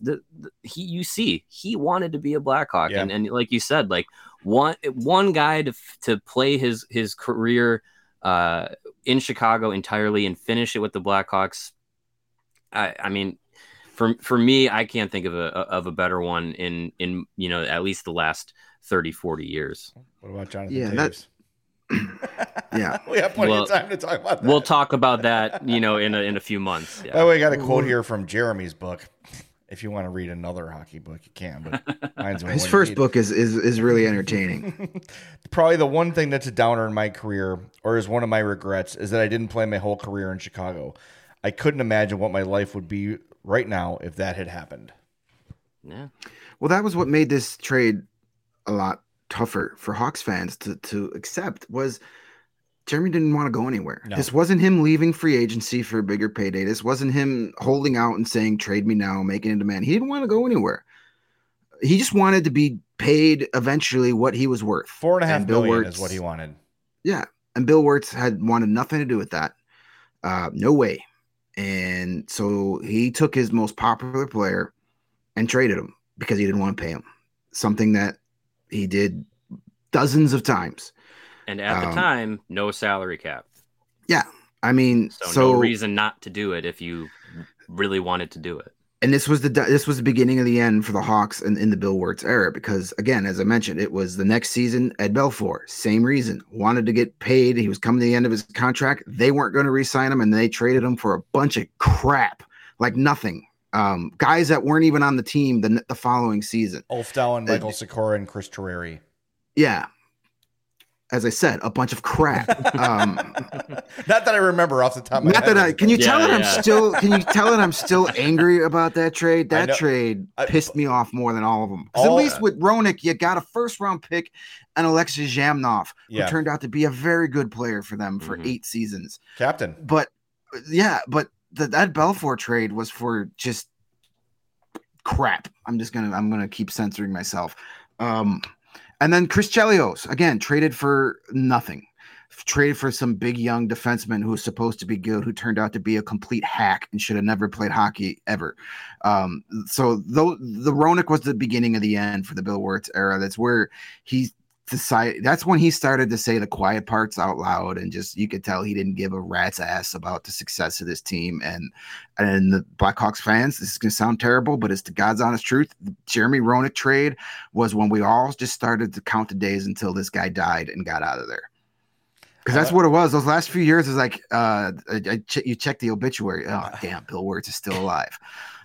he wanted to be a Blackhawk, and like you said, like one guy to play his career in Chicago entirely and finish it with the Blackhawks. I mean, for me, I can't think of a better one in at least the last 30, 40 years. What about Jonathan Toews? Yeah, we have plenty of time to talk about that. We'll talk about that, in a few months. Yeah. By the way, I got a quote here from Jeremy's book. If you want to read another hockey book, you can. But mine's his first book is really entertaining. Probably the one thing that's a downer in my career, or is one of my regrets, is that I didn't play my whole career in Chicago. I couldn't imagine what my life would be right now if that had happened. Yeah. Well, that was what made this trade a lot tougher for Hawks fans to accept. Was Jeremy didn't want to go anywhere. No. This wasn't him leaving free agency for a bigger payday. This wasn't him holding out and saying, trade me now, making a demand. He didn't want to go anywhere. He just wanted to be paid eventually what he was worth. $4.5 million is what he wanted. Yeah. And Bill Wirtz had wanted nothing to do with that. No way. And so he took his most popular player and traded him because he didn't want to pay him. Something that he did dozens of times. And at the time, no salary cap. Yeah. I mean, so no reason not to do it if you really wanted to do it. And this was the beginning of the end for the Hawks in the Bill Wirtz era, because again, as I mentioned, it was the next season. Ed Belfour, same reason, wanted to get paid. He was coming to the end of his contract. They weren't going to re-sign him, and they traded him for a bunch of crap, like nothing. Guys that weren't even on the team the following season. Ulf Dahlen, Michael Sikora, and Chris Terreri. Yeah. As I said, a bunch of crap. Not that I remember off the top of my head. Can you tell that I'm still angry about that trade? That trade pissed me off more than all of them. Because at least with Roenick, you got a first-round pick and Alexei Zhamnov, who turned out to be a very good player for them for 8 seasons. Captain. But that Belfour trade was for just crap. I'm gonna keep censoring myself. And then Chris Chelios, again, traded for nothing. Traded for some big young defenseman who was supposed to be good, who turned out to be a complete hack and should have never played hockey ever. So the Roenick was the beginning of the end for the Bill Wirtz era. That's where he decided. That's when he started to say the quiet parts out loud, and just you could tell he didn't give a rat's ass about the success of this team. And the Blackhawks fans, this is going to sound terrible, but it's the God's honest truth. The Jeremy Roenick trade was when we all just started to count the days until this guy died and got out of there. Because that's what it was. Those last few years is like you check the obituary. Oh, damn, Bill Wirtz is still alive.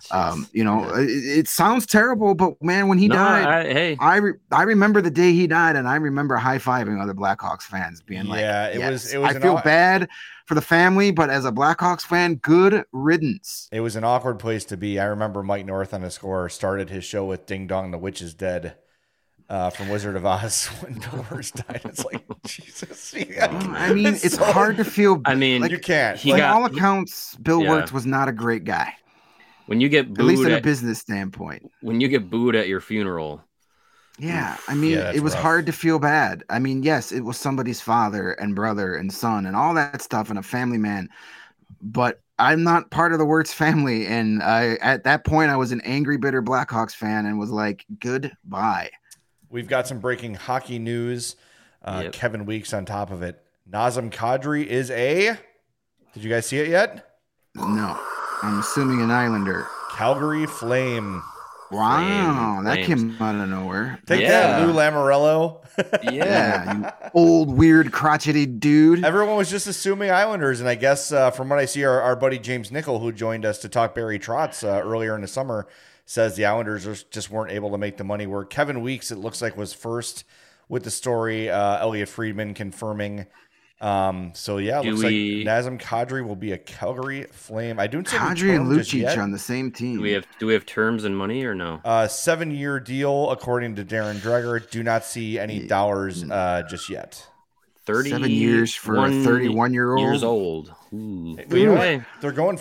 It sounds terrible, but man, when he died, I remember the day he died, and I remember high-fiving other Blackhawks fans being like, it was I feel bad for the family, but as a Blackhawks fan, good riddance. It was an awkward place to be. I remember Mike North on The Score started his show with Ding Dong, the Witch is Dead. From Wizard of Oz when Bill Wirtz died. It's like, Jesus. I mean, it's hard to feel. I mean, you can't. All accounts, Bill Wirtz was not a great guy. When you get booed, at least in a business standpoint. When you get booed at your funeral. Yeah, I mean, it was hard to feel bad. I mean, yes, it was somebody's father and brother and son and all that stuff and a family man. But I'm not part of the Wirtz family. And at that point, I was an angry, bitter Blackhawks fan and was like, goodbye. We've got some breaking hockey news. Kevin Weeks on top of it. Nazem Kadri is Did you guys see it yet? No. I'm assuming an Islander. Calgary Flame. Wow, that came out of nowhere. Take that, Lou Lamoriello. You old, weird, crotchety dude. Everyone was just assuming Islanders, and I guess from what I see, our buddy James Nickel, who joined us to talk Barry Trotz earlier in the summer, says the Islanders just weren't able to make the money work. Kevin Weeks, it looks like, was first with the story. Elliot Friedman confirming. Looks like Nazem Kadri will be a Calgary Flame. I don't see Kadri and Lucic on the same team. Do we have terms and money or no? 7-year deal, according to Darren Dreger. Do not see any dollars just yet. 7 years for a 31-year-old. Years old. They're going for it.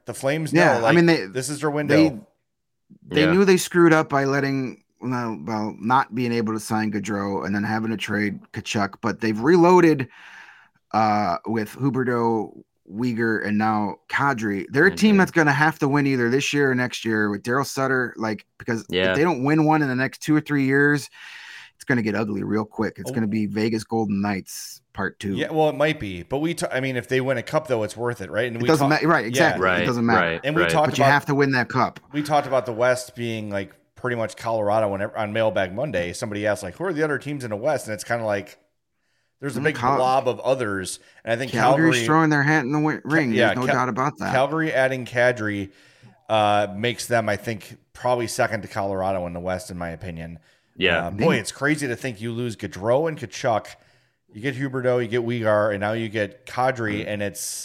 The Flames know. Yeah, Like, I mean, this is their window. They knew they screwed up by not being able to sign Gaudreau and then having to trade Kachuk, but they've reloaded with Huberdeau, Uyghur, and now Kadri. They're a team that's going to have to win either this year or next year with Daryl Sutter, because if they don't win one in the next 2 or 3 years, it's going to get ugly real quick. It's going to be Vegas Golden Knights Part 2. Yeah, well, it might be, but I mean, if they win a cup, though, it's worth it, right? And it doesn't matter, right? Exactly, it doesn't matter. Right, and we talked but you have to win that cup. We talked about the West being like pretty much Colorado. Whenever on Mailbag Monday, somebody asked like, "Who are the other teams in the West?" And it's kind of like there's a big blob of others, and I think Calgary's throwing their hat in the ring. There's no doubt about that. Calgary adding Kadri makes them, I think, probably second to Colorado in the West, in my opinion. Yeah, boy, it's crazy to think you lose Gaudreau and Kachuk, you get Huberdeau, you get Uyghur, and now you get Kadri, and it's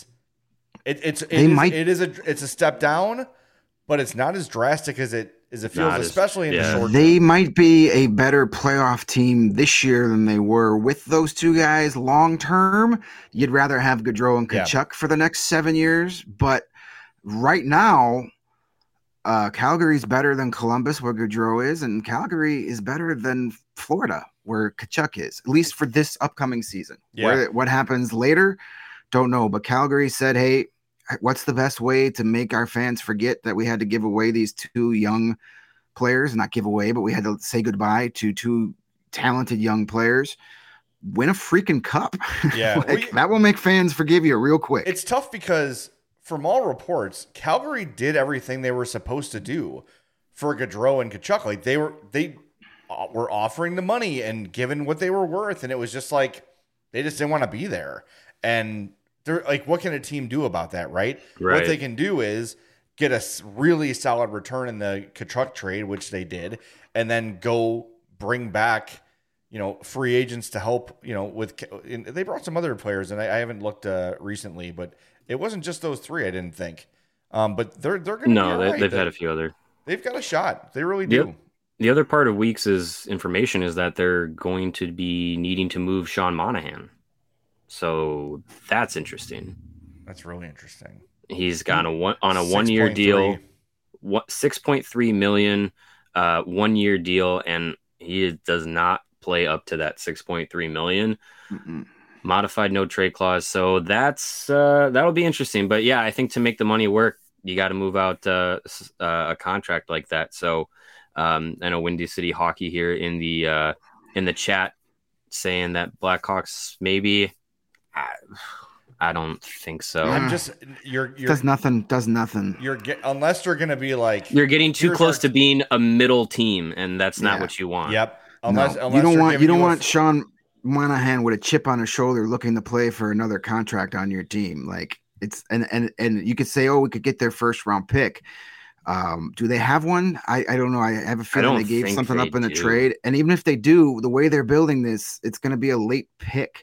a step down, but it's not as drastic as it feels, especially in the short term. They might be a better playoff team this year than they were with those two guys long term. You'd rather have Gaudreau and Kachuk for the next 7 years, but right now, Calgary's better than Columbus, where Gaudreau is, and Calgary is better than Florida, where Kachuk is, at least for this upcoming season. Yeah. What happens later, don't know. But Calgary said, hey, what's the best way to make our fans forget that we had to give away these two young players? Not give away, but we had to say goodbye to two talented young players. Win a freaking cup. Yeah. That will make fans forgive you real quick. It's tough because from all reports, Calgary did everything they were supposed to do for Gaudreau and Kachuk. Like they were offering the money and given what they were worth, and it was just like they just didn't want to be there. And they're like, what can a team do about that, right? What they can do is get a really solid return in the Kachuk trade, which they did, and then go bring back, free agents to help, they brought some other players, and I haven't looked recently, but it wasn't just those three, I didn't think. But they're going to be all right. They've had a few other. They've got a shot. They really do. The other part of Weeks' information is that they're going to be needing to move Sean Monahan. So that's interesting. That's really interesting. He's got on a 1 year deal, 6.3 million, 1 year deal, and he does not play up to that 6.3 million. Modified no trade clause. So that'll be interesting. But yeah, I think to make the money work, you got to move out a contract like that. So I know Windy City Hockey here in the chat saying that Blackhawks maybe. I don't think so. I'm just does nothing. Unless you're going to be like you're getting too close to being a middle team, and that's not what you want. Yep. Unless you don't want Sean Monahan with a chip on his shoulder looking to play for another contract on your team. Like it's and you could say, oh, we could get their first round pick. Do they have one? I don't know. I have a feeling they gave something up in a trade, and even if they do, the way they're building this, it's going to be a late pick.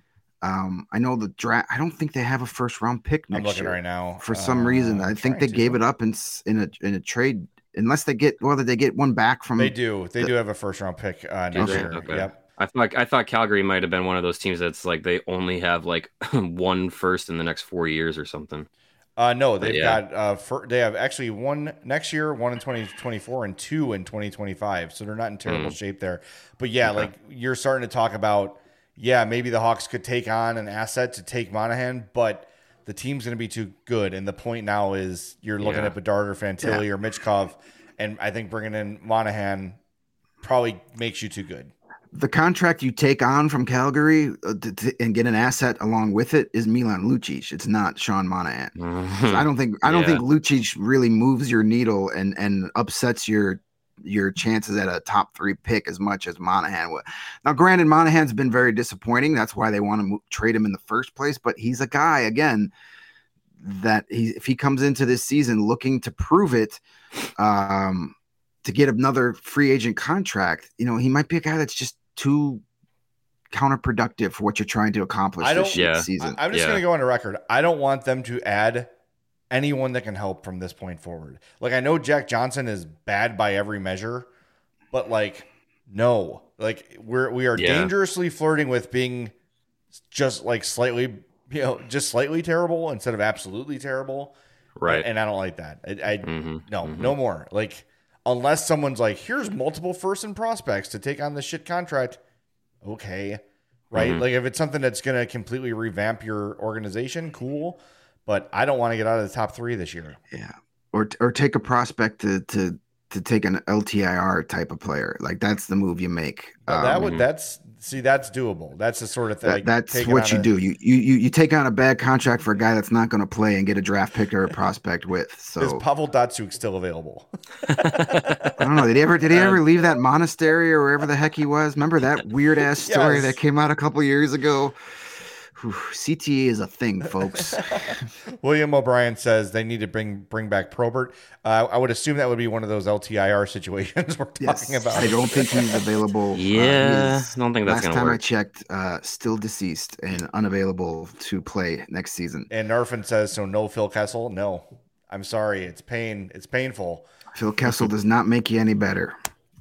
I know the draft. I don't think they have a first round pick next year. I'm looking right now. For some reason, I think they gave it up in a trade. Unless they get one back from. They do. They do have a first round pick next year. Okay. Yep. I thought Calgary might have been one of those teams that's like they only have like one first in the next 4 years or something. No, they've got they have actually one next year, one in 2024, and two in 2025. So they're not in terrible shape there. But yeah, like you're starting to talk about. Yeah, maybe the Hawks could take on an asset to take Monahan, but the team's going to be too good. And the point now is you're looking at Bedard or Fantilli or Michkov, and I think bringing in Monahan probably makes you too good. The contract you take on from Calgary and get an asset along with it is Milan Lucic. It's not Sean Monahan. So I don't think Lucic really moves your needle and upsets your chances at a top 3 pick as much as Monahan would. Now, granted, Monahan's been very disappointing. That's why they want to trade him in the first place. But he's a guy, again, that if he comes into this season looking to prove it, to get another free agent contract, he might be a guy that's just too counterproductive for what you're trying to accomplish this season. I'm just going to go on the record. I don't want them to add anyone that can help from this point forward. Like, I know Jack Johnson is bad by every measure, but like, no, like we are dangerously flirting with being just like slightly terrible instead of absolutely terrible. Right. And I don't like that. No, Mhm. no more. Like, unless someone's like, here's multiple first and prospects to take on this shit contract. Okay. Right. Mhm. Like, if it's something that's going to completely revamp your organization, cool. But I don't want to get out of the top 3 this year. Yeah. Or take a prospect to take an LTIR type of player. Like, that's the move you make. That's doable. That's the sort of thing. That's what you do. You take on a bad contract for a guy that's not going to play and get a draft pick or a prospect with. So is Pavel Datsyuk still available? I don't know. Did he ever leave that monastery or wherever the heck he was? Remember that weird ass story that came out a couple years ago? Whew, CTE is a thing, folks. William O'Brien says they need to bring back Probert. I would assume that would be one of those LTIR situations we're talking about. I don't think he's available. Yeah, I don't think that's going to work. Last time I checked, still deceased and unavailable to play next season. And Narfin says, so no Phil Kessel? No. I'm sorry. It's painful. Phil Kessel does not make you any better.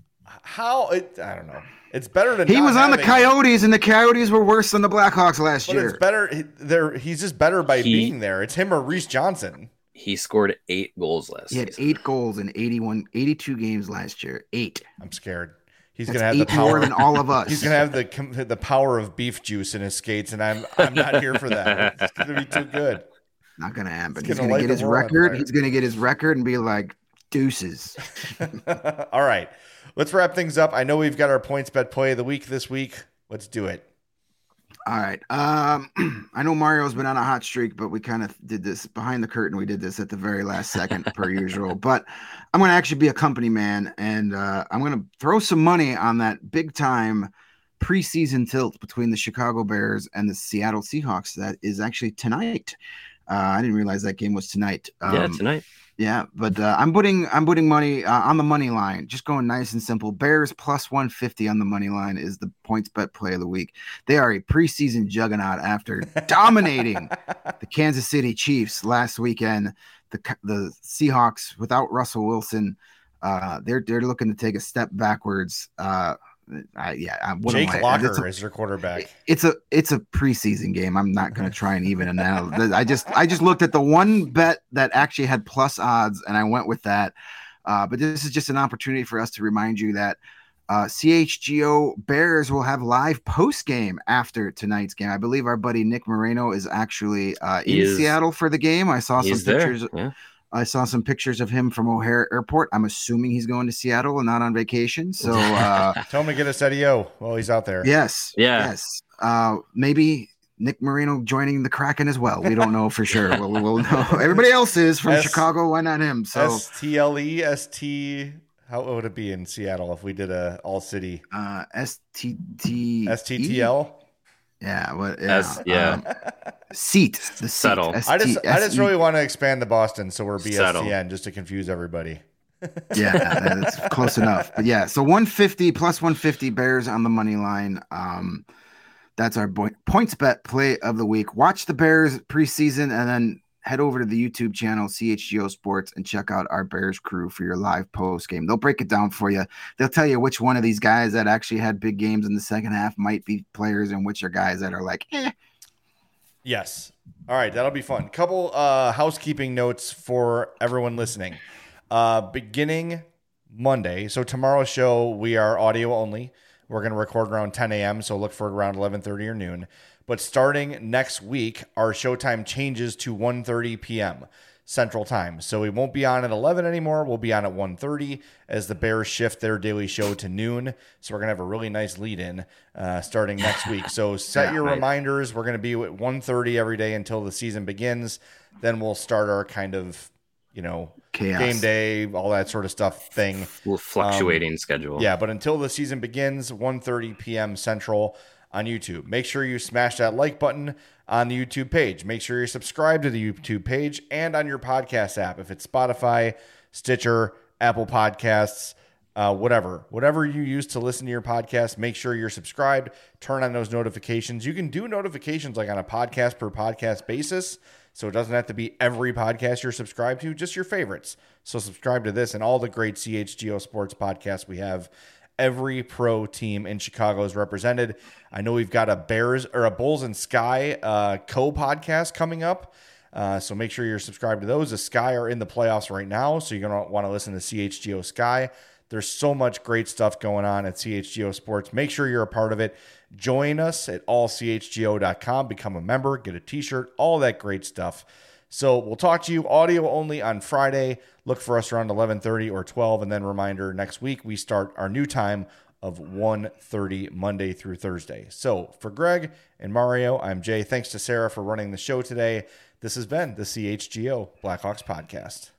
I don't know. It's better than he was on the Coyotes, and the Coyotes were worse than the Blackhawks last year. It's better. He's just better by being there. It's him or Reese Johnson. He scored 8 goals last season. He had 8 goals in 82 games last year. 8. I'm scared. He's going to have the power more than all of us. He's going to have the power of beef juice in his skates, and I'm not here for that. It's going to be too good. Not going to happen. He's going to get his record. He's going to get his record and be like, deuces. All right. Let's wrap things up. I know we've got our points bet play of the week this week. Let's do it. All right. I know Mario's been on a hot streak, but we kind of did this behind the curtain. We did this at the very last second per usual. But I'm going to actually be a company man, and I'm going to throw some money on that big time preseason tilt between the Chicago Bears and the Seattle Seahawks. That is actually tonight. I didn't realize that game was tonight. Tonight. Yeah, but I'm putting money on the money line. Just going nice and simple. Bears plus 150 on the money line is the points bet play of the week. They are a preseason juggernaut after dominating the Kansas City Chiefs last weekend. The Seahawks without Russell Wilson, they're looking to take a step backwards. Jake Locker is your quarterback. It's a preseason game. I'm not going to try and even analyze. I just looked at the one bet that actually had plus odds, and I went with that. But this is just an opportunity for us to remind you that CHGO Bears will have live post game after tonight's game. I believe our buddy Nick Moreno is actually in Seattle for the game. I saw some pictures. Yeah. I saw some pictures of him from O'Hare Airport. I'm assuming he's going to Seattle and not on vacation. So tell him to get a SEDIO while he's out there. Yes. Yeah. Yes. Maybe Nick Moreno joining the Kraken as well. We don't know for sure. We'll know. Everybody else is from Chicago. Why not him? So STLEST. How would it be in Seattle if we did a all city? STTL. Yeah, seat the settle. I just really want to expand the Boston, so we're BSTN just to confuse everybody. Yeah, that's close enough. But yeah, so 150 plus 150 Bears on the money line. That's our points bet play of the week. Watch the Bears preseason, and then head over to the YouTube channel, CHGO Sports, and check out our Bears crew for your live post game. They'll break it down for you. They'll tell you which one of these guys that actually had big games in the second half might be players and which are guys that are like, eh. Yes. All right. That'll be fun. Couple housekeeping notes for everyone listening. Beginning Monday, so tomorrow's show, we are audio only. We're going to record around 10 a.m., so look for it around 11:30 or noon. But starting next week, our showtime changes to 1:30 p.m. Central Time. So we won't be on at 11 anymore. We'll be on at 1:30 as the Bears shift their daily show to noon. So we're going to have a really nice lead-in starting next week. So set your reminders. We're going to be at 1:30 every day until the season begins. Then we'll start our kind of, chaos. Game day, all that sort of stuff thing. Fluctuating schedule. Yeah, but until the season begins, 1:30 p.m. Central on YouTube. Make sure you smash that like button on the YouTube page. Make sure you're subscribed to the YouTube page and on your podcast app. If it's Spotify, Stitcher, Apple Podcasts, whatever you use to listen to your podcast, make sure you're subscribed. Turn on those notifications. You can do notifications like on a podcast per podcast basis. So it doesn't have to be every podcast you're subscribed to, just your favorites. So subscribe to this and all the great CHGO Sports podcasts we have. Every pro team in Chicago is represented. I know we've got a Bulls and Sky co-podcast coming up. So make sure you're subscribed to those. The Sky are in the playoffs right now, so you're going to want to listen to CHGO Sky. There's so much great stuff going on at CHGO Sports. Make sure you're a part of it. Join us at allchgo.com. Become a member, get a t-shirt, all that great stuff. So we'll talk to you audio only on Friday. Look for us around 11:30 or 12. And then reminder, next week we start our new time of 1:30 Monday through Thursday. So for Greg and Mario, I'm Jay. Thanks to Sarah for running the show today. This has been the CHGO Blackhawks Podcast.